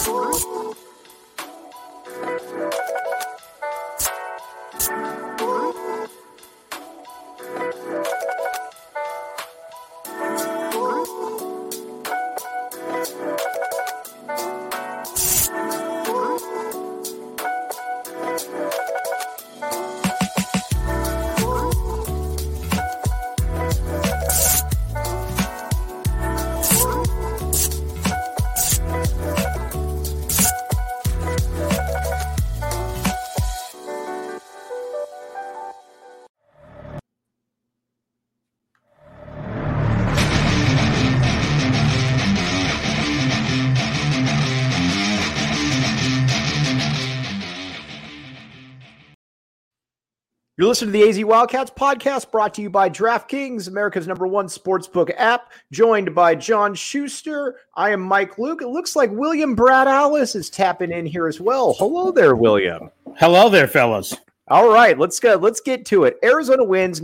You're listening to the AZ Wildcats podcast, brought to you by DraftKings, America's #1 sportsbook app, joined by John Schuster. I am Mike Luke. It looks like William Brad Alice is tapping in here as well. Hello there, William. Hello there, fellas. All right, let's get to it. Arizona wins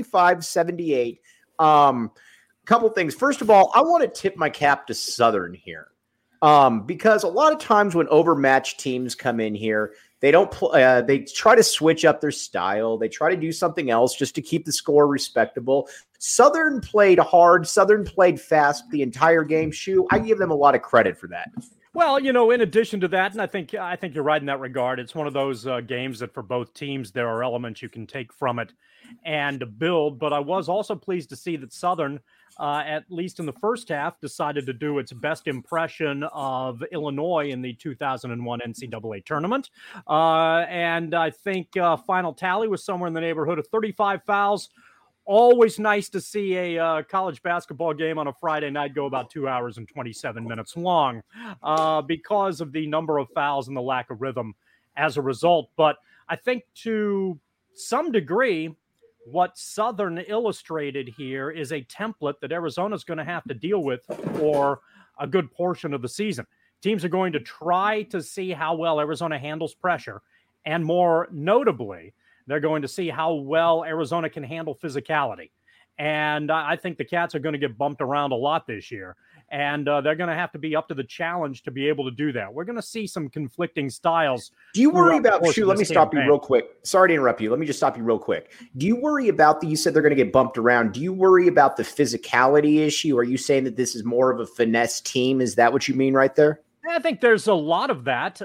95-78. Couple things. First of all, I want to tip my cap to Southern here, because a lot of times when overmatched teams come in here, they don't. They try to switch up their style. They try to do something else just to keep the score respectable. Southern played hard. Southern played fast the entire game. I give them a lot of credit for that. Well, in addition to that, and I think you're right in that regard. It's one of those games that for both teams there are elements you can take from it and build. But I was also pleased to see that Southern, at least in the first half, decided to do its best impression of Illinois in the 2001 NCAA tournament. And I think final tally was somewhere in the neighborhood of 35 fouls. Always nice to see a college basketball game on a Friday night go about 2 hours and 27 minutes long because of the number of fouls and the lack of rhythm as a result. But I think to some degree, what Southern illustrated here is a template that Arizona's going to have to deal with for a good portion of the season. Teams are going to try to see how well Arizona handles pressure, and more notably, they're going to see how well Arizona can handle physicality. And I think the Cats are going to get bumped around a lot this year. And they're going to have to be up to the challenge to be able to do that. We're going to see some conflicting styles. Do you worry about, let me stop you real quick. Sorry to interrupt you. Let me just stop you real quick. Do you worry about you said they're going to get bumped around. Do you worry about the physicality issue? Are you saying that this is more of a finesse team? Is that what you mean right there? I think there's a lot of that.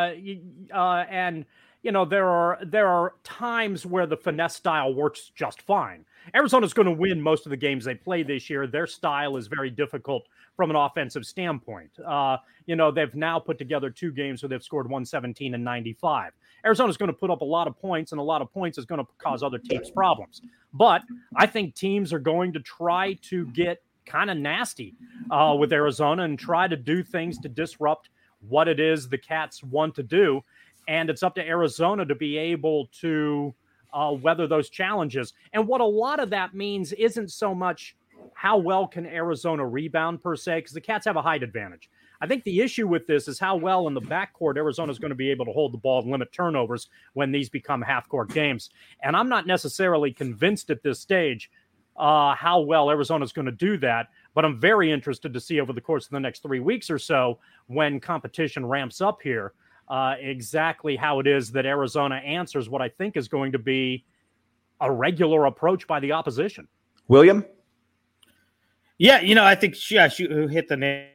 And there are times where the finesse style works just fine. Arizona's going to win most of the games they play this year. Their style is very difficult from an offensive standpoint. They've now put together 2 games where they've scored 117 and 95. Arizona's going to put up a lot of points, and a lot of points is going to cause other teams problems. But I think teams are going to try to get kind of nasty with Arizona and try to do things to disrupt what it is the Cats want to do. And it's up to Arizona to be able to weather those challenges. And what a lot of that means isn't so much how well can Arizona rebound per se, because the Cats have a height advantage. I think the issue with this is how well in the backcourt Arizona is going to be able to hold the ball and limit turnovers when these become half-court games. And I'm not necessarily convinced at this stage how well Arizona is going to do that, but I'm very interested to see over the course of the next 3 weeks or so when competition ramps up here, exactly how it is that Arizona answers what I think is going to be a regular approach by the opposition. William? Yeah, I think she hit the nail.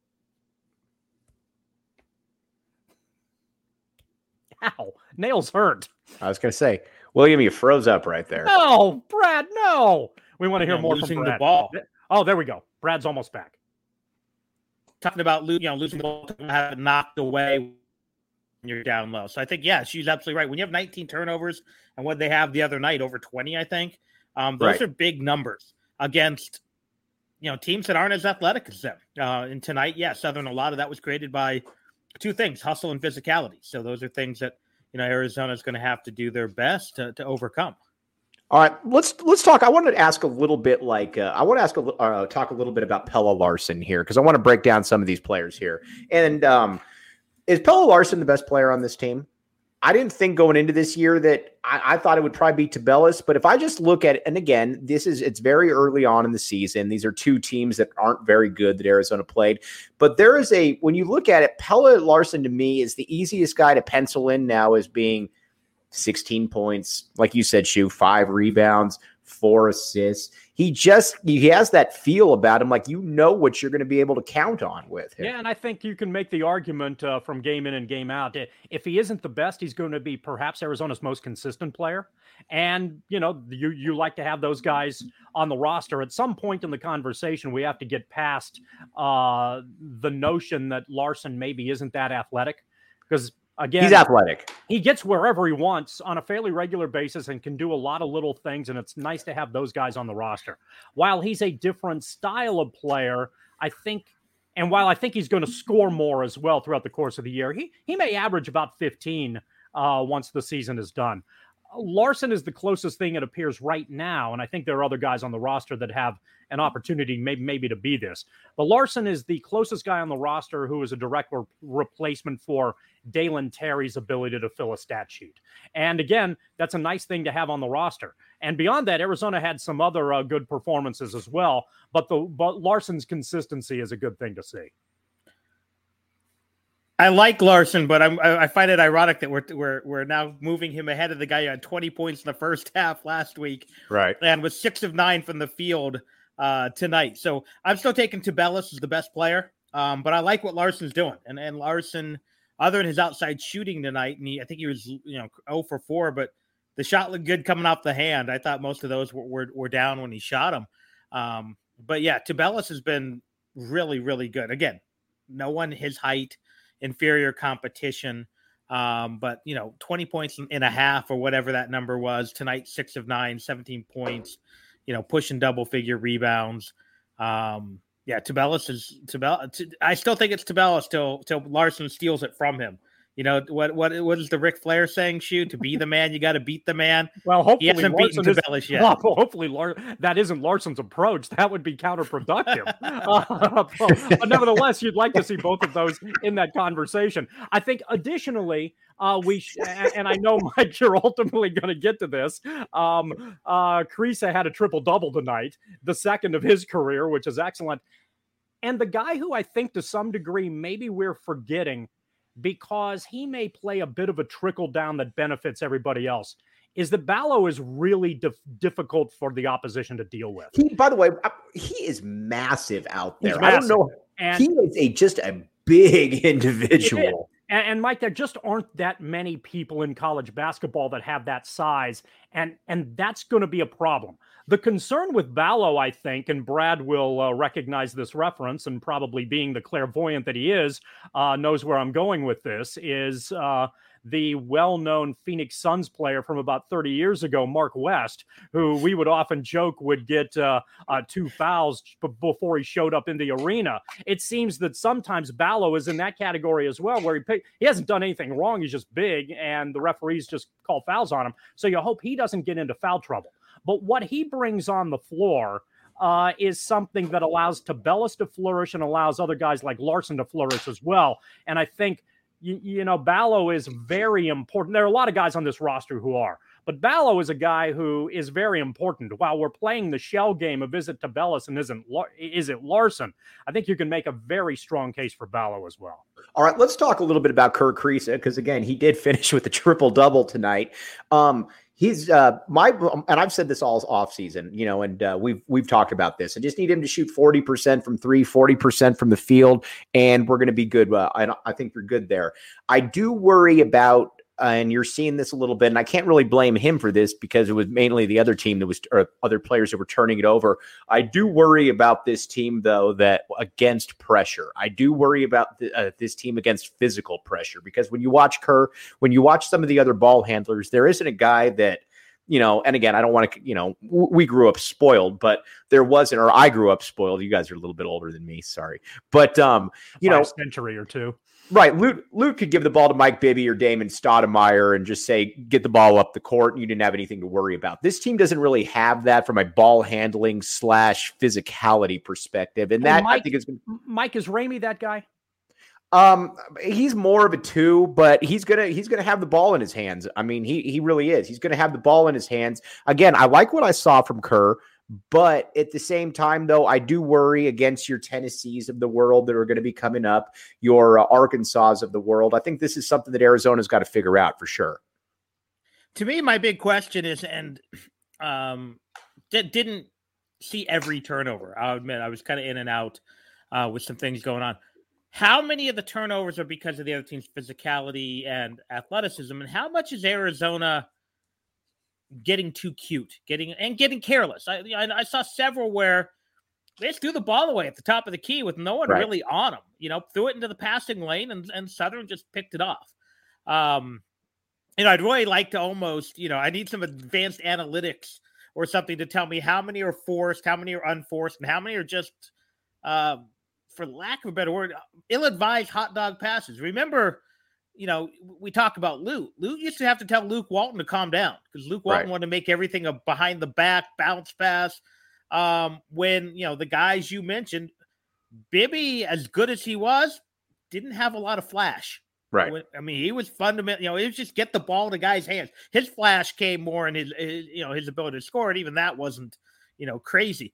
Ow, nails hurt. I was going to say, William, you froze up right there. No, Brad, no. We want to hear more from Brad. The ball. Oh, there we go. Brad's almost back. Talking about losing the ball, have it knocked away when you're down low. So I think, she's absolutely right. When you have 19 turnovers and what they have the other night, over 20, I think, those are big numbers against teams that aren't as athletic as them. And tonight, Southern, a lot of that was created by 2 things, hustle and physicality. So those are things that, Arizona is going to have to do their best to overcome. All right, let's talk. I wanted to ask a little bit talk a little bit about Pelle Larsson here, because I want to break down some of these players here. And is Pelle Larsson the best player on this team? I didn't think going into this year that I thought it would probably be Tabellus, but if I just look at it, and again, it's very early on in the season. These are two teams that aren't very good that Arizona played, but when you look at it, Pelle Larsson to me is the easiest guy to pencil in now as being 16 points, like you said, Shu, 5 rebounds, 4 assists. He has that feel about him, like what you're going to be able to count on with him. Yeah, and I think you can make the argument from game in and game out. If he isn't the best, he's going to be perhaps Arizona's most consistent player. And, you like to have those guys on the roster. At some point in the conversation, we have to get past the notion that Larsson maybe isn't that athletic, because again, he's athletic. He gets wherever he wants on a fairly regular basis and can do a lot of little things, and it's nice to have those guys on the roster. While he's a different style of player, I think he's going to score more as well throughout the course of the year, he may average about 15 once the season is done. Larsson is the closest thing it appears right now, and I think there are other guys on the roster that have an opportunity maybe to be this. But Larsson is the closest guy on the roster who is a direct replacement for Dalen Terry's ability to fill a stat sheet. And again, that's a nice thing to have on the roster. And beyond that, Arizona had some other good performances as well, but Larsson's consistency is a good thing to see. I like Larsson, but I find it ironic that we're now moving him ahead of the guy who had 20 points in the first half last week, right? And was 6 of 9 from the field tonight. So I'm still taking Tabellus as the best player, but I like what Larsson's doing. And Larsson, other than his outside shooting tonight, and I think he was 0 for 4, but the shot looked good coming off the hand. I thought most of those were down when he shot them. But yeah, Tabellus has been really, really good. Again, no one his height. Inferior competition, but 20 points in a half or whatever that number was tonight. 6 of 9, 17 points. Pushing double figure rebounds. Tabellus is Tabellus. I still think it's Tabellus till Larsson steals it from him. What is the Ric Flair saying, Shu? To be the man, you got to beat the man. Well, hopefully he hasn't beaten Tabellus yet. Well, hopefully that isn't Larsson's approach. That would be counterproductive. But nevertheless, you'd like to see both of those in that conversation. I think additionally, and I know, Mike, you're ultimately going to get to this. Kriisa had a triple-double tonight, the second of his career, which is excellent. And the guy who I think to some degree maybe we're forgetting, because he may play a bit of a trickle down that benefits everybody else, is that Ballo is really difficult for the opposition to deal with. By the way, he is massive out there. Massive. I don't know. And he is just a big individual. And Mike, there just aren't that many people in college basketball that have that size, and that's going to be a problem. The concern with Ballo, I think, and Brad will recognize this reference, and probably being the clairvoyant that he is, knows where I'm going with this, is the well-known Phoenix Suns player from about 30 years ago, Mark West, who we would often joke would get 2 fouls before he showed up in the arena. It seems that sometimes Ballo is in that category as well, where he hasn't done anything wrong. He's just big, and the referees just call fouls on him. So you hope he doesn't get into foul trouble. But what he brings on the floor is something that allows Tabellus to flourish and allows other guys like Larsson to flourish as well. And I think, Ballo is very important. There are a lot of guys on this roster who are, but Ballo is a guy who is very important. While we're playing the shell game of is it Tabellus and is it Larsson, I think you can make a very strong case for Ballo as well. All right, let's talk a little bit about Kerr Kriisa, because again, he did finish with a triple-double tonight. He's and I've said this all off season, and we've talked about this. I just need him to shoot 40% from 3, 40% from the field, and we're going to be good. I think you're good there. I do worry about, and you're seeing this a little bit, and I can't really blame him for this because it was mainly the other team or other players that were turning it over. I do worry about this team, though, that against pressure. I do worry about this team against physical pressure, because when you watch Kerr, when you watch some of the other ball handlers, there isn't a guy that, and again, I don't want to, we grew up spoiled, but there wasn't, or I grew up spoiled. You guys are a little bit older than me. Sorry. But, a century or two. Right. Luke could give the ball to Mike Bibby or Damon Stoudemire and just say, get the ball up the court, and you didn't have anything to worry about. This team doesn't really have that from a ball handling / physicality perspective. And that, Mike, I think, is Mike, is Ramey that guy? He's more of a 2, but he's gonna have the ball in his hands. I mean, he really is. He's gonna have the ball in his hands. Again, I like what I saw from Kerr, but at the same time, though, I do worry against your Tennessees of the world that are going to be coming up, your Arkansas of the world. I think this is something that Arizona's got to figure out for sure. To me, my big question is, and didn't see every turnover. I'll admit I was kind of in and out with some things going on. How many of the turnovers are because of the other team's physicality and athleticism, and how much is Arizona getting too cute, getting careless? I saw several where they just threw the ball away at the top of the key with no one really on them. Threw it into the passing lane, and Southern just picked it off. I'd really like to almost, I need some advanced analytics or something to tell me how many are forced, how many are unforced, and how many are just, for lack of a better word, ill-advised hot dog passes. Remember, we talk about Luke. Luke used to have to tell Luke Walton to calm down because Luke Walton wanted to make everything a behind the back bounce pass. When, the guys you mentioned, Bibby, as good as he was, didn't have a lot of flash. Right. I mean, he was fundamental. It was just get the ball in the guy's hands. His flash came more in his ability to score, and even that wasn't, crazy.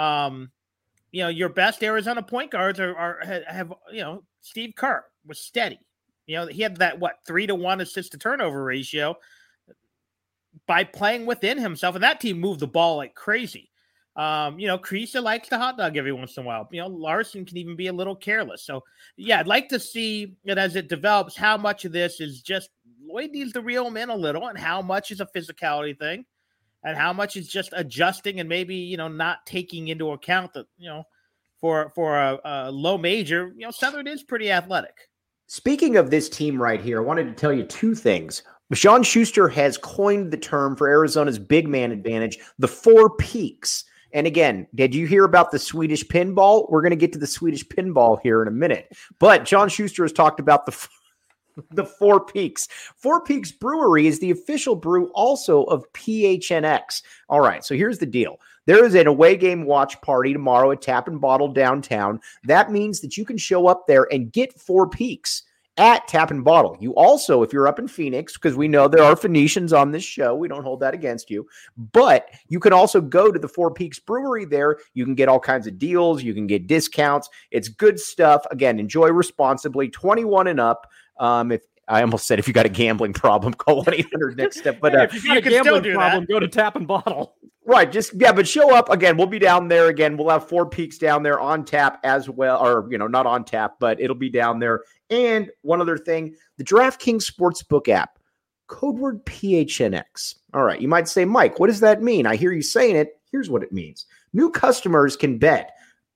Your best Arizona point guards have Steve Kerr was steady. He had that 3-to-1 assist to turnover ratio by playing within himself, and that team moved the ball like crazy. Kriisa likes the hot dog every once in a while. Larson can even be a little careless. So, yeah, I'd like to see it as it develops, how much of this is just Lloyd needs to reel him in a little, and how much is a physicality thing, and how much is just adjusting and maybe, not taking into account that, for a low major, Southern is pretty athletic. Speaking of this team right here, I wanted to tell you two things. Sean Schuster has coined the term for Arizona's big man advantage, the 4 peaks. And again, did you hear about the Swedish pinball? We're going to get to the Swedish pinball here in a minute. But John Schuster has talked about the 4 Peaks. 4 Peaks Brewery is the official brew also of PHNX. All right, so here's the deal. There is an away game watch party tomorrow at Tap and Bottle downtown. That means that you can show up there and get 4 Peaks at Tap and Bottle. You also, if you're up in Phoenix, because we know there are Phoenicians on this show, we don't hold that against you, but you can also go to the 4 Peaks Brewery there. You can get all kinds of deals. You can get discounts. It's good stuff. Again, enjoy responsibly, 21 and up. If I almost said if you got a gambling problem, call 1-800-NEXT-STEP. But if you got a gambling problem, go to Tap and Bottle. Right. But show up again. We'll be down there again. We'll have 4 Peaks down there on tap as well, or, not on tap, but it'll be down there. And one other thing, the DraftKings Sportsbook app, code word PHNX. All right. You might say, Mike, what does that mean? I hear you saying it. Here's what it means. New customers can bet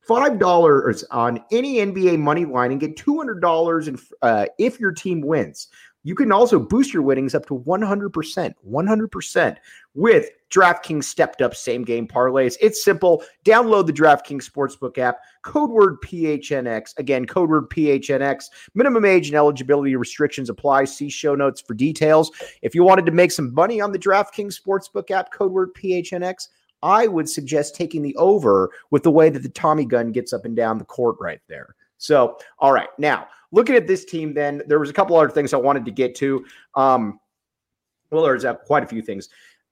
$5 on any NBA money line and get $200 if your team wins. You can also boost your winnings up to 100% with DraftKings stepped up same game parlays. It's simple. Download the DraftKings Sportsbook app, code word PHNX. Again, code word PHNX. Minimum age and eligibility restrictions apply. See show notes for details. If you wanted to make some money on the DraftKings Sportsbook app, code word PHNX, I would suggest taking the over with the way that the Tommy gun gets up and down the court right there. So, all right. Now, looking at this team then, there was a couple other things I wanted to get to. There's quite a few things.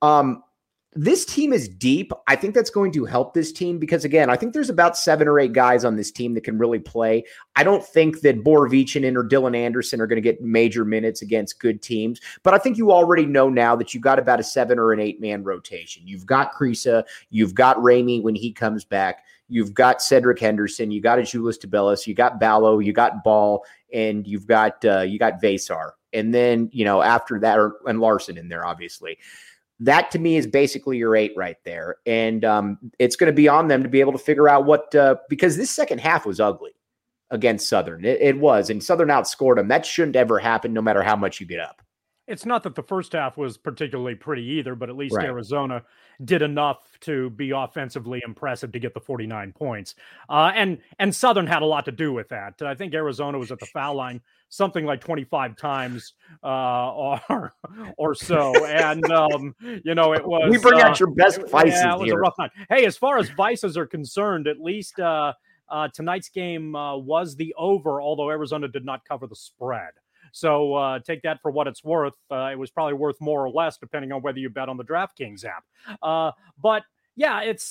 This team is deep. I think that's going to help this team because, again, I think there's about 7 or 8 guys on this team that can really play. I don't think that Borovichinen or Dylan Anderson are going to get major minutes against good teams, but I think you already know now that you've got about a 7 or an 8-man rotation. You've got Kriisa, you've got Ramey when he comes back, you've got Cedric Henderson, you got Azuolas Tubelis, you got Ballo, you got Ball, and you've got Vesar. And then, after that, and Larson in there, obviously. That to me is basically your 8 right there. And it's going to be on them to be able to figure out because this second half was ugly against Southern. It was, and Southern outscored them. That shouldn't ever happen no matter how much you get up. It's not that the first half was particularly pretty either, but at least Arizona did enough to be offensively impressive to get the 49 points. And Southern had a lot to do with that. I think Arizona was at the foul line something like 25 times or so. And, it was... We bring out your best vices it was here. a rough night. Hey, as far as vices are concerned, at least Tonight's game was the over, although Arizona did not cover the spread. So take that for what it's worth. It was probably worth more or less, depending on whether you bet on the DraftKings app. But yeah, it's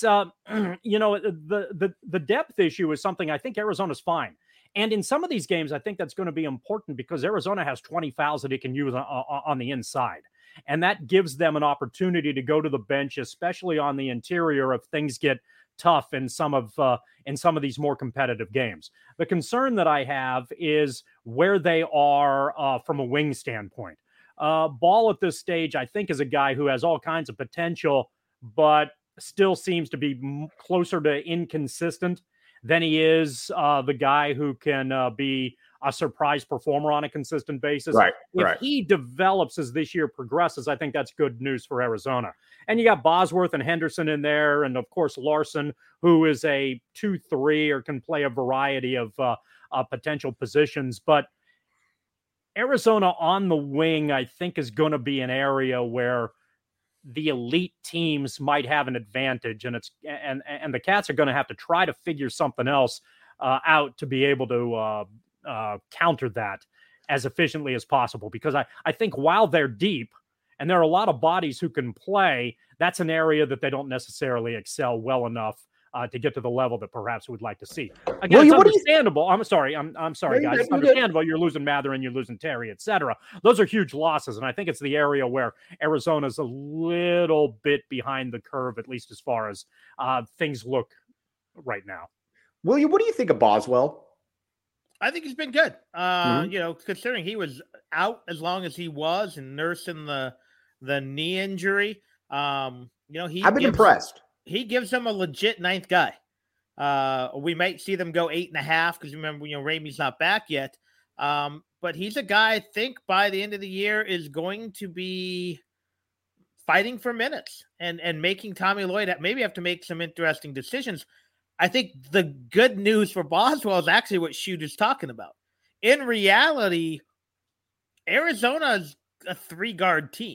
the depth issue is something I think Arizona's fine. And in some of these games, I think that's going to be important because Arizona has 20 fouls that it can use on the inside. And that gives them an opportunity to go to the bench, especially on the interior if things get tough in some of these more competitive games. The concern that I have is where they are from a wing standpoint. Ball at this stage, I think, is a guy who has all kinds of potential, but still seems to be closer to inconsistent than he is the guy who can be a surprise performer on a consistent basis. Right. If he develops as this year progresses, I think that's good news for Arizona. And you got Bosworth and Henderson in there, and of course Larson, who is a 2-3 or can play a variety of potential positions. But Arizona on the wing, I think, is going to be an area where the elite teams might have an advantage, and the Cats are going to have to try to figure something else out to be able to counter that as efficiently as possible. Because I think while they're deep and there are a lot of bodies who can play, that's an area that they don't necessarily excel well enough to get to the level that perhaps we'd like to see. Again, it's understandable. I'm sorry, guys. It's understandable. You're losing Mather and you're losing Terry, etc. Those are huge losses, and I think it's the area where Arizona's a little bit behind the curve, at least as far as things look right now. William, what do you think of Boswell? I think he's been good. Considering he was out as long as he was and nursing the knee injury. I've been impressed. He gives them a legit ninth guy. We might see them go 8.5 because remember, Ramey's not back yet. But he's a guy I think by the end of the year is going to be fighting for minutes and making Tommy Lloyd maybe have to make some interesting decisions. I think the good news for Boswell is actually what Schutt is talking about. In reality, Arizona's a 3-guard team.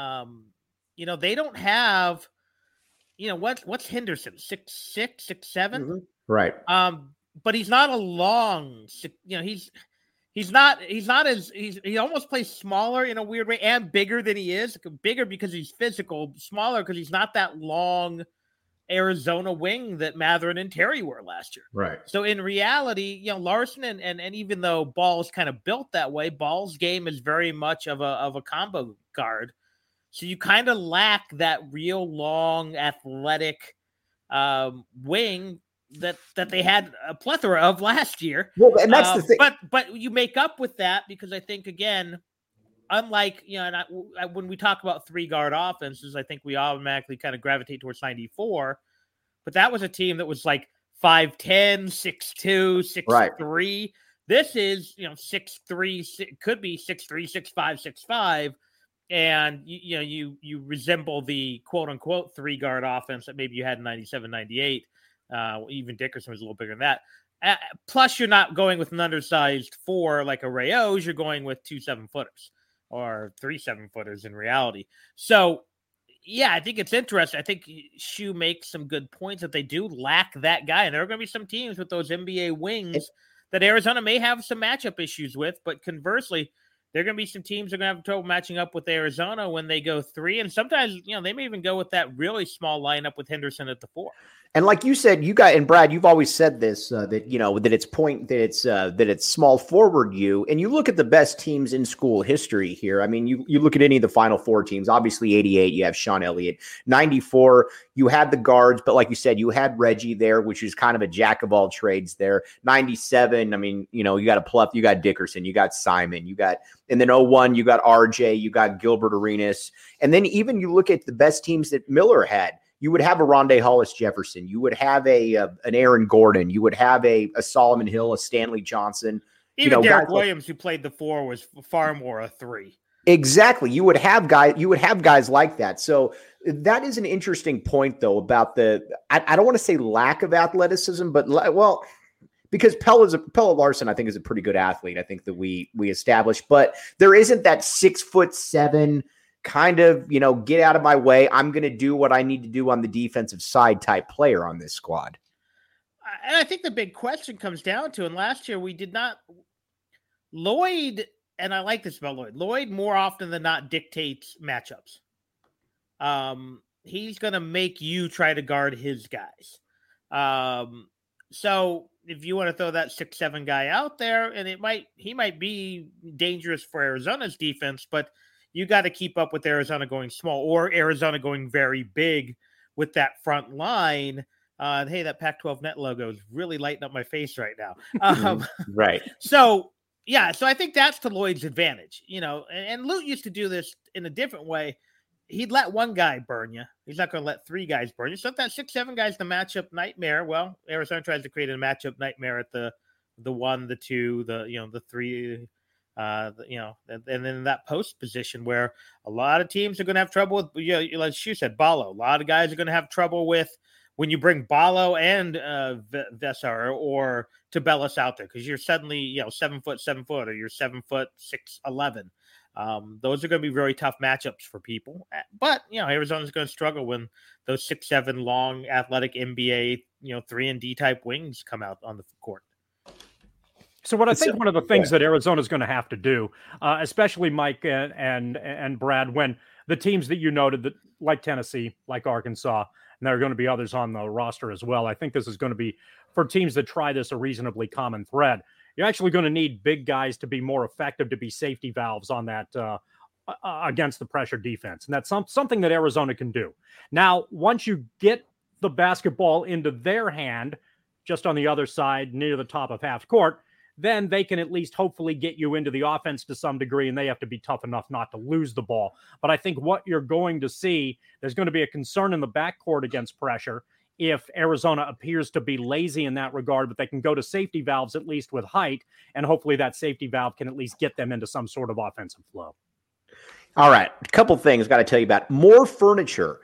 They don't have. What's Henderson? 6'6", 6'7"? Mm-hmm. Right. But he's not a long. He almost plays smaller in a weird way and bigger than he is. Bigger because he's physical, smaller because he's not that long Arizona wing that Mather and Terry were last year. Right. So in reality, Larson and even though Ball's kind of built that way, Ball's game is very much of a combo guard. So you kind of lack that real long athletic wing that they had a plethora of last year. Well, and that's the thing. But you make up with that because I think, again, unlike, when we talk about 3-guard offenses, I think we automatically kind of gravitate towards 94. But that was a team that was like 5'10", 6'2", 6'3". Right. This is, 6'3", could be 6'3", 6'5", 6'5". And you resemble the quote unquote 3-guard offense that maybe you had in 97, 98. Even Dickerson was a little bigger than that. Plus, you're not going with an undersized 4 like a Rayos. You're going with 2 7-footers or 3 7-footers in reality. So, yeah, I think it's interesting. I think Schutt makes some good points that they do lack that guy. And there are going to be some teams with those NBA wings that Arizona may have some matchup issues with. But conversely, there are going to be some teams that are going to have trouble matching up with Arizona when they go 3. And sometimes, they may even go with that really small lineup with Henderson at the 4. And like you said, and Brad, you've always said this, that it's small forward you. And you look at the best teams in school history here. I mean, you look at any of the Final Four teams, obviously 88, you have Sean Elliott. 94, you had the guards, but like you said, you had Reggie there, which is kind of a jack of all trades there. 97, I mean, you got a Pluff, you got Dickerson, you got Simon, and then 01, you got RJ, you got Gilbert Arenas. And then even you look at the best teams that Miller had. You would have a Rondé Hollis Jefferson. You would have an Aaron Gordon. You would have a Solomon Hill, a Stanley Johnson. Even Derek Williams, who played the 4, was far more a 3. Exactly. You would have guys like that. So that is an interesting point, though, about I don't want to say lack of athleticism, but because Pelle Larsson, I think, is a pretty good athlete. I think that we established, but there isn't that 6'7" kind of, get out of my way. I'm going to do what I need to do on the defensive side type player on this squad. And I think the big question comes down to, and last year we did not, Lloyd, and I like this about Lloyd. Lloyd more often than not dictates matchups. He's going to make you try to guard his guys. So if you want to throw that 6'7" guy out there, and he might be dangerous for Arizona's defense, but you got to keep up with Arizona going small or Arizona going very big with that front line. Hey, that Pac-12 net logo is really lighting up my face right now. Right. So I think that's to Lloyd's advantage, and Lute used to do this in a different way. He'd let one guy burn you. He's not going to let three guys burn you. So if that 6'7" guy's the matchup nightmare, well, Arizona tries to create a matchup nightmare at the 1, the 2, the 3, and then in that post position where a lot of teams are going to have trouble with, like Shu said, Ballo. A lot of guys are going to have trouble with when you bring Ballo and Vesar or Tabellas out there, because you're suddenly 7 foot, or you're 7 foot 6'11". Those are going to be very tough matchups for people. But, Arizona's going to struggle when those 6'7" long athletic NBA, 3-and-D type wings come out on the court. So what I think one of the things that Arizona is going to have to do, especially Mike and Brad, when the teams that you noted, that like Tennessee, like Arkansas, and there are going to be others on the roster as well, I think this is going to be, for teams that try this, a reasonably common thread. You're actually going to need big guys to be more effective, to be safety valves on that against the pressure defense. And that's something that Arizona can do. Now, once you get the basketball into their hand, just on the other side, near the top of half court, then they can at least hopefully get you into the offense to some degree, and they have to be tough enough not to lose the ball. But I think what you're going to see, there's going to be a concern in the backcourt against pressure if Arizona appears to be lazy in that regard, but they can go to safety valves at least with height, and hopefully that safety valve can at least get them into some sort of offensive flow. All right, a couple things got to tell you about. More Furniture,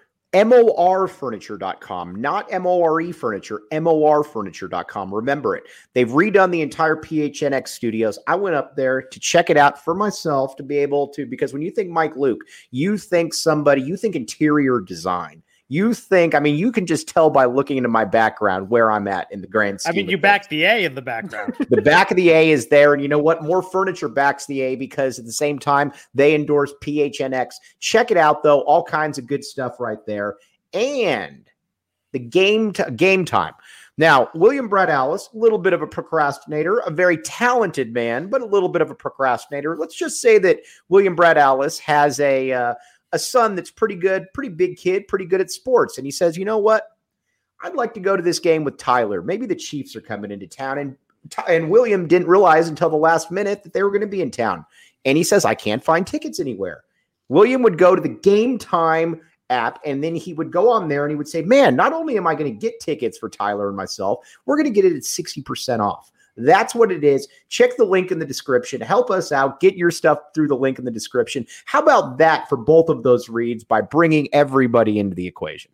morfurniture.com, not MORE furniture, morfurniture.com. Remember it. They've redone the entire PHNX studios. I went up there to check it out for myself, to be able to, because when you think Mike Luke, you think interior design. You can just tell by looking into my background where I'm at in the grand scheme. You back the A in the background. The back of the A is there. And you know what? More Furniture backs the A, because at the same time, they endorse PHNX. Check it out, though. All kinds of good stuff right there. And the game time. Now, William Brett Alice, a little bit of a procrastinator, a very talented man, but a little bit of a procrastinator. Let's just say that William Brett Alice has a son that's pretty good, pretty big kid, pretty good at sports. And he says, you know what? I'd like to go to this game with Tyler. Maybe the Chiefs are coming into town. And William didn't realize until the last minute that they were going to be in town. And he says, I can't find tickets anywhere. William would go to the Game Time app, and then he would go on there and he would say, man, not only am I going to get tickets for Tyler and myself, we're going to get it at 60% off. That's what it is. Check the link in the description. Help us out. Get your stuff through the link in the description. How about that for both of those reads, by bringing everybody into the equation?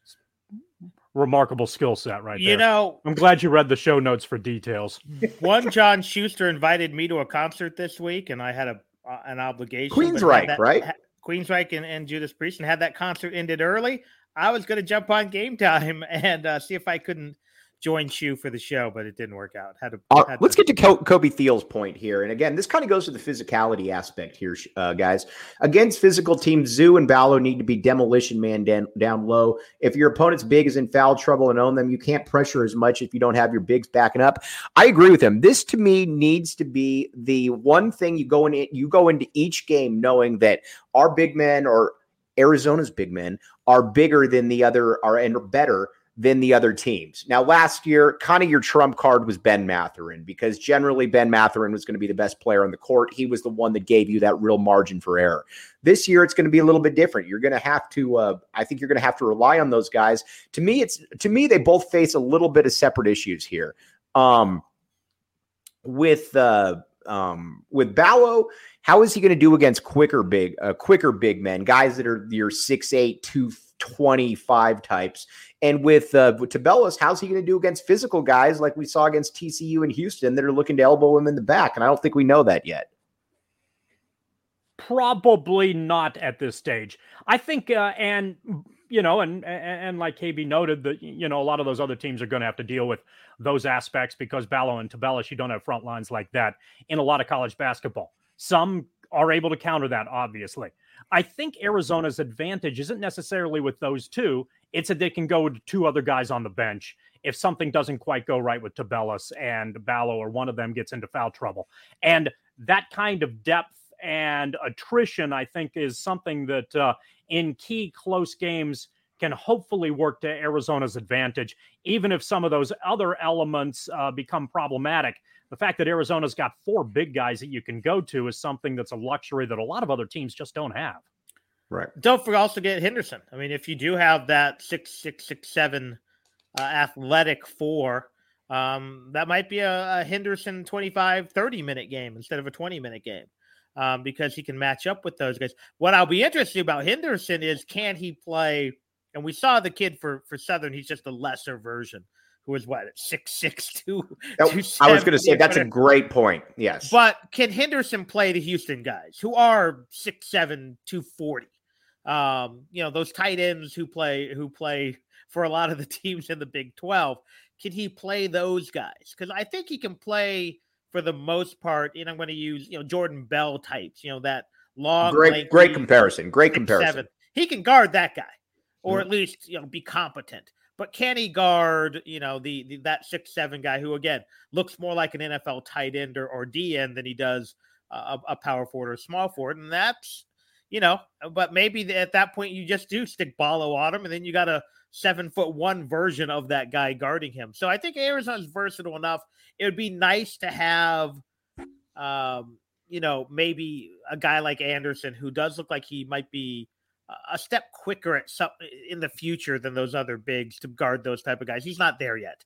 Remarkable skill set right there. I'm glad you read the show notes for details. One John Schuster invited me to a concert this week, and I had an obligation. Queensryche, right? Queensryche and Judas Priest, and had that concert ended early. I was going to jump on Game Time and see if I couldn't join Shu for the show, but it didn't work out. Let's get to Kobe Thiel's point here. And again, this kind of goes to the physicality aspect here, guys. Against physical teams, Zoo and Ballo need to be demolition man down low. If your opponent's big is in foul trouble and own them, you can't pressure as much if you don't have your bigs backing up. I agree with him. This, to me, needs to be the one thing you go into each game knowing that our big men, or Arizona's big men, are bigger than the other, and better than the other teams. Now, last year, kind of your trump card was Ben Mathurin, because generally Ben Mathurin was going to be the best player on the court. He was the one that gave you that real margin for error. This year, it's going to be a little bit different. You're going to have to, I think you're going to have to rely on those guys. To me, they both face a little bit of separate issues here. With Ballo, how is he going to do against quicker big men, guys that are your 6'8", 225 types? And with Tabellas, how's he going to do against physical guys like we saw against TCU and Houston that are looking to elbow him in the back? And I don't think we know that yet. Probably not at this stage. I think, and and like KB noted, that a lot of those other teams are going to have to deal with those aspects because Ballo and Tubelis, you don't have front lines like that in a lot of college basketball. Some are able to counter that, obviously. I think Arizona's advantage isn't necessarily with those two. It's that they can go to two other guys on the bench if something doesn't quite go right with Tubelis and Ballo, or one of them gets into foul trouble. And that kind of depth and attrition, I think, is something that in key close games can hopefully work to Arizona's advantage, even if some of those other elements become problematic. The fact that Arizona's got four big guys that you can go to is something that's a luxury that a lot of other teams just don't have. Right. Don't forget Henderson. I mean, if you do have that 6'6", 6'7" athletic four, that might be a Henderson 25, 30-minute game instead of a 20-minute game. Because he can match up with those guys. What I'll be interested about Henderson is, can he play? And we saw the kid for Southern. He's just a lesser version who was 6'6", 270. I was going to say that's a great point. Yes. But can Henderson play the Houston guys who are 6'7", 240? Those tight ends who play for a lot of the teams in the Big 12. Can he play those guys? Because I think he can play for the most part, I'm going to use, Jordan Bell types, that long, great comparison. Great comparison. He can guard that guy, or at least, be competent. But can he guard, that 6'7" guy who, again, looks more like an NFL tight end or D end than he does a power forward or small forward? And that's, but maybe at that point you just do stick Ballo on him, and then you got a 7'1" version of that guy guarding him. So I think Arizona's versatile enough. It would be nice to have, maybe a guy like Anderson who does look like he might be a step quicker in the future than those other bigs to guard those type of guys. He's not there yet.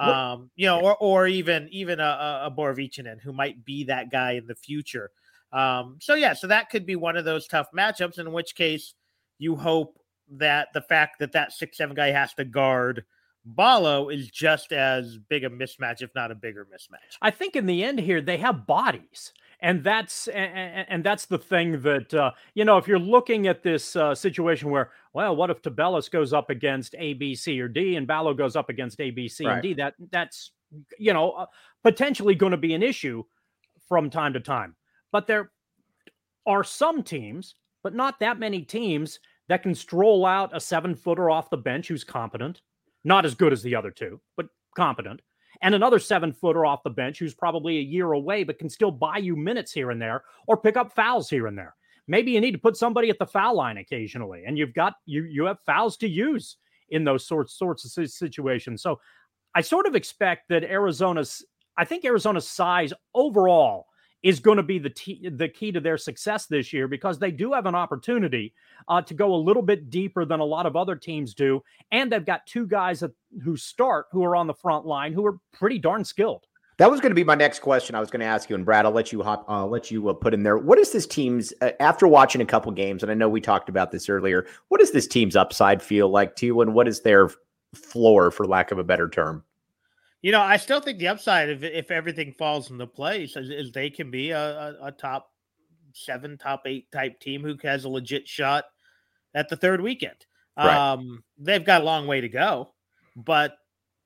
Or even a Borovichinen who might be that guy in the future. So that could be one of those tough matchups, in which case you hope that the fact that 6'7" guy has to guard Ballo is just as big a mismatch, if not a bigger mismatch. I think in the end here, they have bodies. And that's the thing that, if you're looking at this situation where, well, what if Tubelis goes up against A, B, C, or D, and Ballo goes up against A, B, C, and D? That's potentially going to be an issue from time to time. But there are some teams, but not that many teams, that can stroll out a 7-footer off the bench who's competent. Not as good as the other two, but competent. And another 7-footer off the bench who's probably a year away, but can still buy you minutes here and there or pick up fouls here and there. Maybe you need to put somebody at the foul line occasionally, and you have fouls to use in those sorts of situations. So I sort of expect that Arizona's size overall is going to be the key to their success this year, because they do have an opportunity to go a little bit deeper than a lot of other teams do. And they've got two guys who are on the front line who are pretty darn skilled. That was going to be my next question. I was going to ask you, and Brad, I'll let you put in there. What is this team's, after watching a couple games, and I know we talked about this earlier, what does this team's upside feel like to you, and what is their floor, for lack of a better term? I still think the upside, if everything falls into place, is they can be a top 7, top 8 type team who has a legit shot at the third weekend. Right. They've got a long way to go, but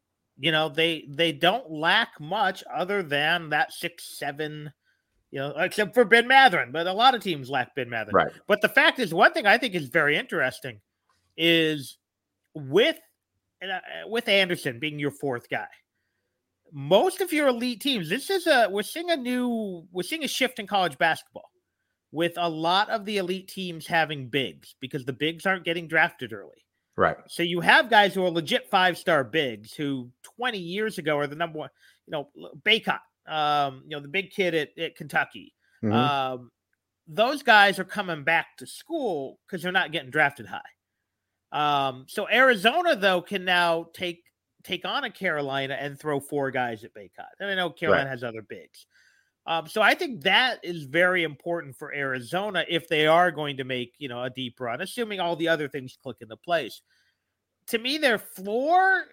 they don't lack much other than that 6'7", except for Ben Mathurin. But a lot of teams lack Ben Mathurin. Right. But the fact is, one thing I think is very interesting is with Anderson being your fourth guy, most of your elite teams, we're seeing a shift in college basketball with a lot of the elite teams having bigs, because the bigs aren't getting drafted early. Right. So you have guys who are legit 5-star bigs who 20 years ago are the number one, Baycott, the big kid at Kentucky. Mm-hmm. Those guys are coming back to school because they're not getting drafted high. So Arizona, though, can now take on a Carolina and throw 4 guys at Baycott. And I know Carolina has other bigs. So I think that is very important for Arizona if they are going to make, a deep run, assuming all the other things click into place. To me, their floor,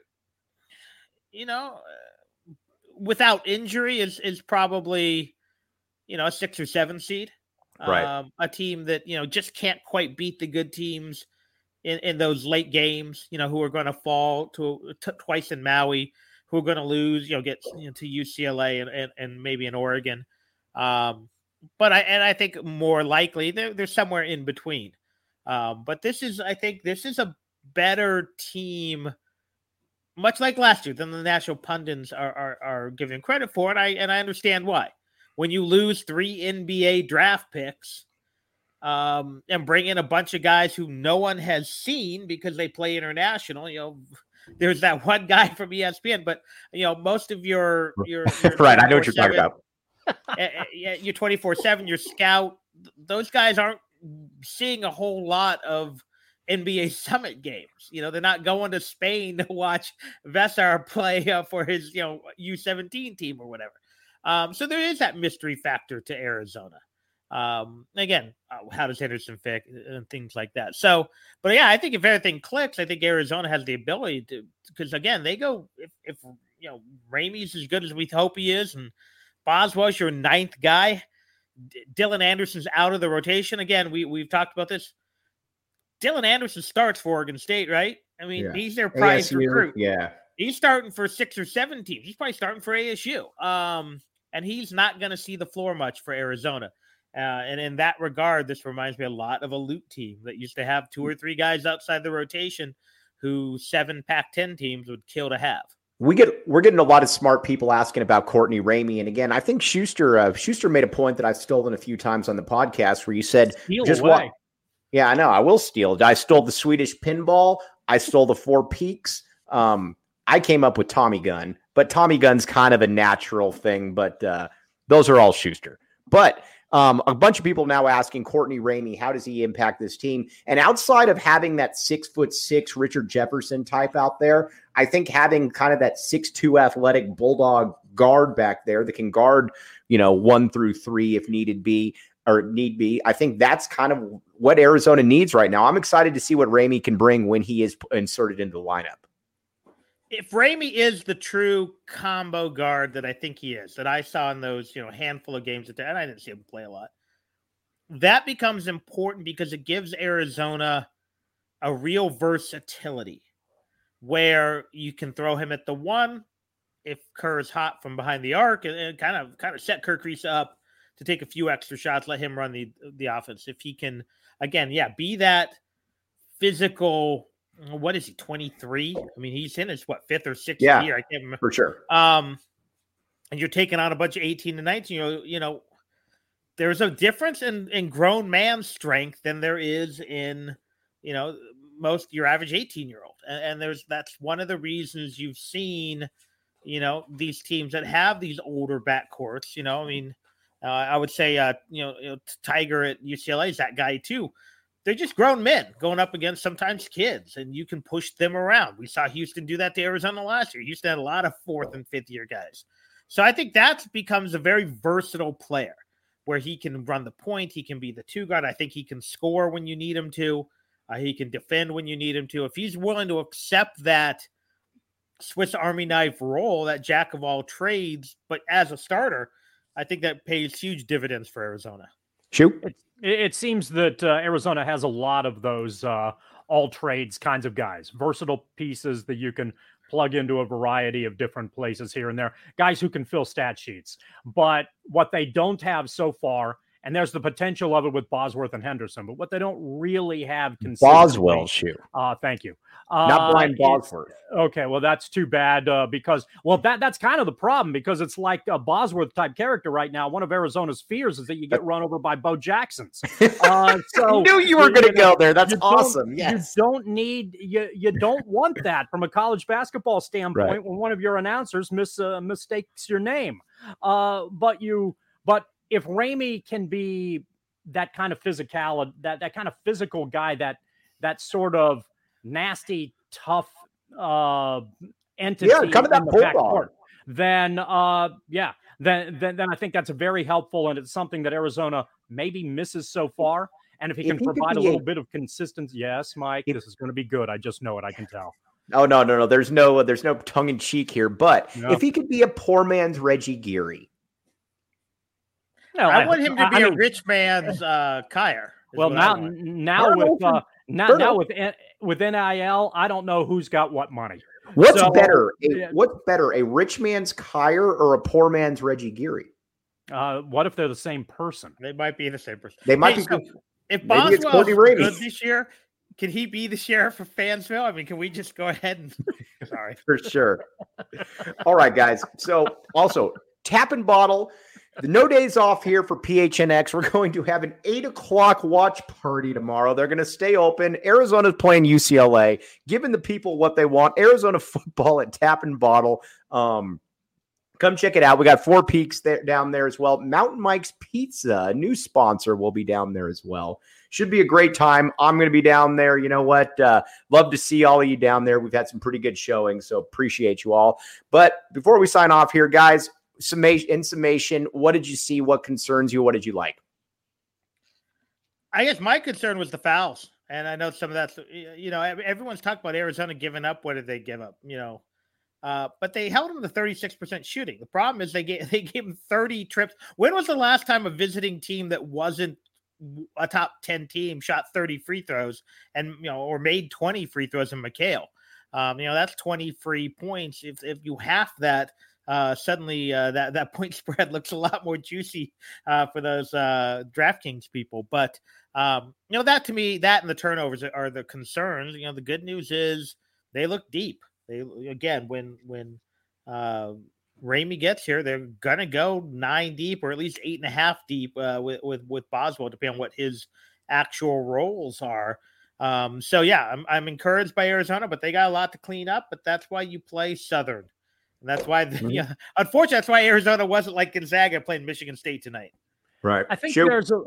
without injury is probably, a 6 or 7 seed. Right. A team that, just can't quite beat the good teams in those late games, who are going to fall to twice in Maui, who are going to lose, get to UCLA and maybe in Oregon. But I think more likely they're somewhere in between. But I think this is a better team, much like last year, than the national pundits are giving credit for, and I understand why. When you lose 3 NBA draft picks, and bring in a bunch of guys who no one has seen because they play international, there's that one guy from ESPN, but most of your right, I know what you're talking about. Your 24/7, your scout, those guys aren't seeing a whole lot of NBA Summit games. They're not going to Spain to watch Vesar play for his U17 team or whatever. So there is that mystery factor to Arizona. Again, how does Henderson fit and things like that. So, but yeah, I think if everything clicks, I think Arizona has the ability to, because again, they go, if Ramey's as good as we hope he is, and Boswell's your 9th guy, Dylan Anderson's out of the rotation. Again, we've talked about this. Dylan Anderson starts for Oregon State, right? I mean, he's their prize recruit. Yeah. He's starting for 6 or 7 teams. He's probably starting for ASU. And he's not going to see the floor much for Arizona. And in that regard, this reminds me a lot of a Loot team that used to have 2 or 3 guys outside the rotation who 7 Pac-10 teams would kill to have. We're getting a lot of smart people asking about Courtney Ramey. And again, I think Schuster made a point that I've stolen a few times on the podcast where you said, yeah, I know. I will steal. I stole the Swedish pinball. I stole the 4 Peaks. I came up with Tommy Gun, but Tommy Gun's kind of a natural thing, but those are all Schuster. But a bunch of people now asking Courtney Ramey, how does he impact this team? And outside of having that 6'6" Richard Jefferson type out there, I think having kind of that 6'2" athletic bulldog guard back there that can guard, 1 through 3 if need be. I think that's kind of what Arizona needs right now. I'm excited to see what Ramey can bring when he is inserted into the lineup. If Ramey is the true combo guard that I think he is, that I saw in those, handful of games, and I didn't see him play a lot, that becomes important because it gives Arizona a real versatility where you can throw him at the 1 if Kerr is hot from behind the arc and kind of set Kerr Kriisa up to take a few extra shots, let him run the offense. If he can, again, be that physical. What is he, 23? I mean, he's in his, 5th or 6th year? I can't remember. For sure. And you're taking on a bunch of 18 to 19. There's a difference in grown man strength than there is in, most your average 18-year-old. And that's one of the reasons you've seen, these teams that have these older backcourts, I would say, Tiger at UCLA is that guy too. They're just grown men going up against sometimes kids, and you can push them around. We saw Houston do that to Arizona last year. Houston had a lot of 4th and 5th year guys. So I think that becomes a very versatile player where he can run the point. He can be the 2 guard. I think he can score when you need him to. He can defend when you need him to. If he's willing to accept that Swiss Army knife role, that jack of all trades, but as a starter, I think that pays huge dividends for Arizona. Shoot. It seems that Arizona has a lot of those all trades kinds of guys, versatile pieces that you can plug into a variety of different places here and there, guys who can fill stat sheets. But what they don't have so far, and there's the potential of it with Bosworth and Henderson, but what they don't really have Boswell shoe. Thank you. Not blind Bosworth. Okay, well, that's too bad because, that's kind of the problem because it's like a Bosworth type character right now. One of Arizona's fears is that you get run over by Bo Jacksons. So I knew you were going to go there. That's awesome. Yes. You don't want that from a college basketball standpoint when one of your announcers mistakes your name. But if Ramey can be that kind of physical, that kind of physical guy, that sort of nasty, tough entity, kind of that bulldog, then I think that's a very helpful, and it's something that Arizona maybe misses so far. And if he can provide a little bit of consistency, yes, Mike, this is going to be good. I just know it. I can tell. Oh no. There's no tongue in cheek here. But if he could be a poor man's Reggie Geary. No, I want him to be a rich man's Kyer. Well, now Now with NIL, I don't know who's got what money. What's better, a rich man's Kyer or a poor man's Reggie Geary? What if they're the same person? They might be the same person. They might be. So if Boswell's good this year, can he be the sheriff of Fansville? I mean, can we just go ahead and sorry. For sure. All right, guys. So also Tap and Bottle. The no days off here for PHNX. We're going to have an 8:00 watch party tomorrow. They're going to stay open. Arizona's playing UCLA, giving the people what they want. Arizona football at Tap and Bottle. Come check it out. We got Four Peaks down there as well. Mountain Mike's Pizza, a new sponsor, will be down there as well. Should be a great time. I'm going to be down there. You know what? Love to see all of you down there. We've had some pretty good showing, so appreciate you all. But before we sign off here, guys, in summation, what did you see? What concerns you? What did you like? I guess my concern was the fouls. And I know some of that's, everyone's talking about Arizona giving up. What did they give up? But they held them to 36% shooting. The problem is they gave them 30 trips. When was the last time a visiting team that wasn't a top 10 team shot 30 free throws and, or made 20 free throws in McHale? That's 20 free points. If you half that, suddenly that point spread looks a lot more juicy for those DraftKings people. But, that to me, that and the turnovers are the concerns. The good news is they look deep. When Ramey gets here, they're going to go 9 deep or at least 8.5 deep with Boswell, depending on what his actual roles are. I'm encouraged by Arizona, but they got a lot to clean up. But that's why you play Southern. And that's why, unfortunately, that's why Arizona wasn't like Gonzaga playing Michigan State tonight. Right. I think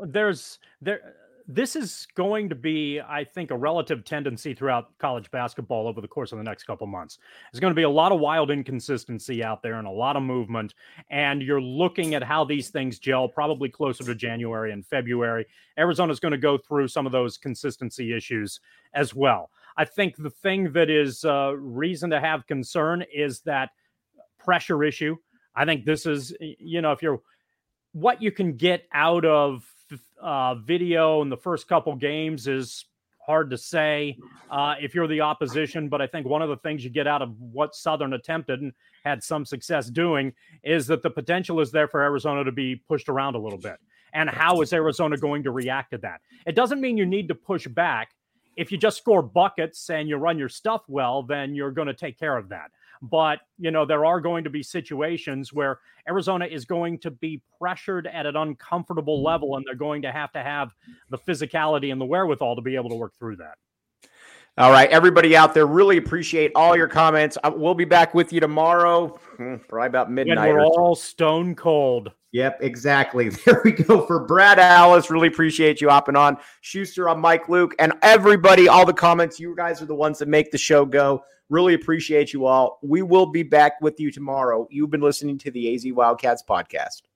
this is going to be, I think, a relative tendency throughout college basketball over the course of the next couple months. There's going to be a lot of wild inconsistency out there and a lot of movement. And you're looking at how these things gel probably closer to January and February. Arizona's going to go through some of those consistency issues as well. I think the thing that is reason to have concern is that pressure issue. I think this is, if you're what you can get out of video in the first couple games is hard to say if you're the opposition. But I think one of the things you get out of what Southern attempted and had some success doing is that the potential is there for Arizona to be pushed around a little bit. And how is Arizona going to react to that? It doesn't mean you need to push back. If you just score buckets and you run your stuff well, then you're going to take care of that. But, there are going to be situations where Arizona is going to be pressured at an uncomfortable level, and they're going to have the physicality and the wherewithal to be able to work through that. All right, everybody out there, really appreciate all your comments. We'll be back with you tomorrow, probably about midnight. And we're all stone cold. Yep, exactly. There we go. For Brad Alice, really appreciate you hopping on. Schuster, I'm Mike Luke, and everybody, all the comments. You guys are the ones that make the show go. Really appreciate you all. We will be back with you tomorrow. You've been listening to the AZ Wildcats podcast.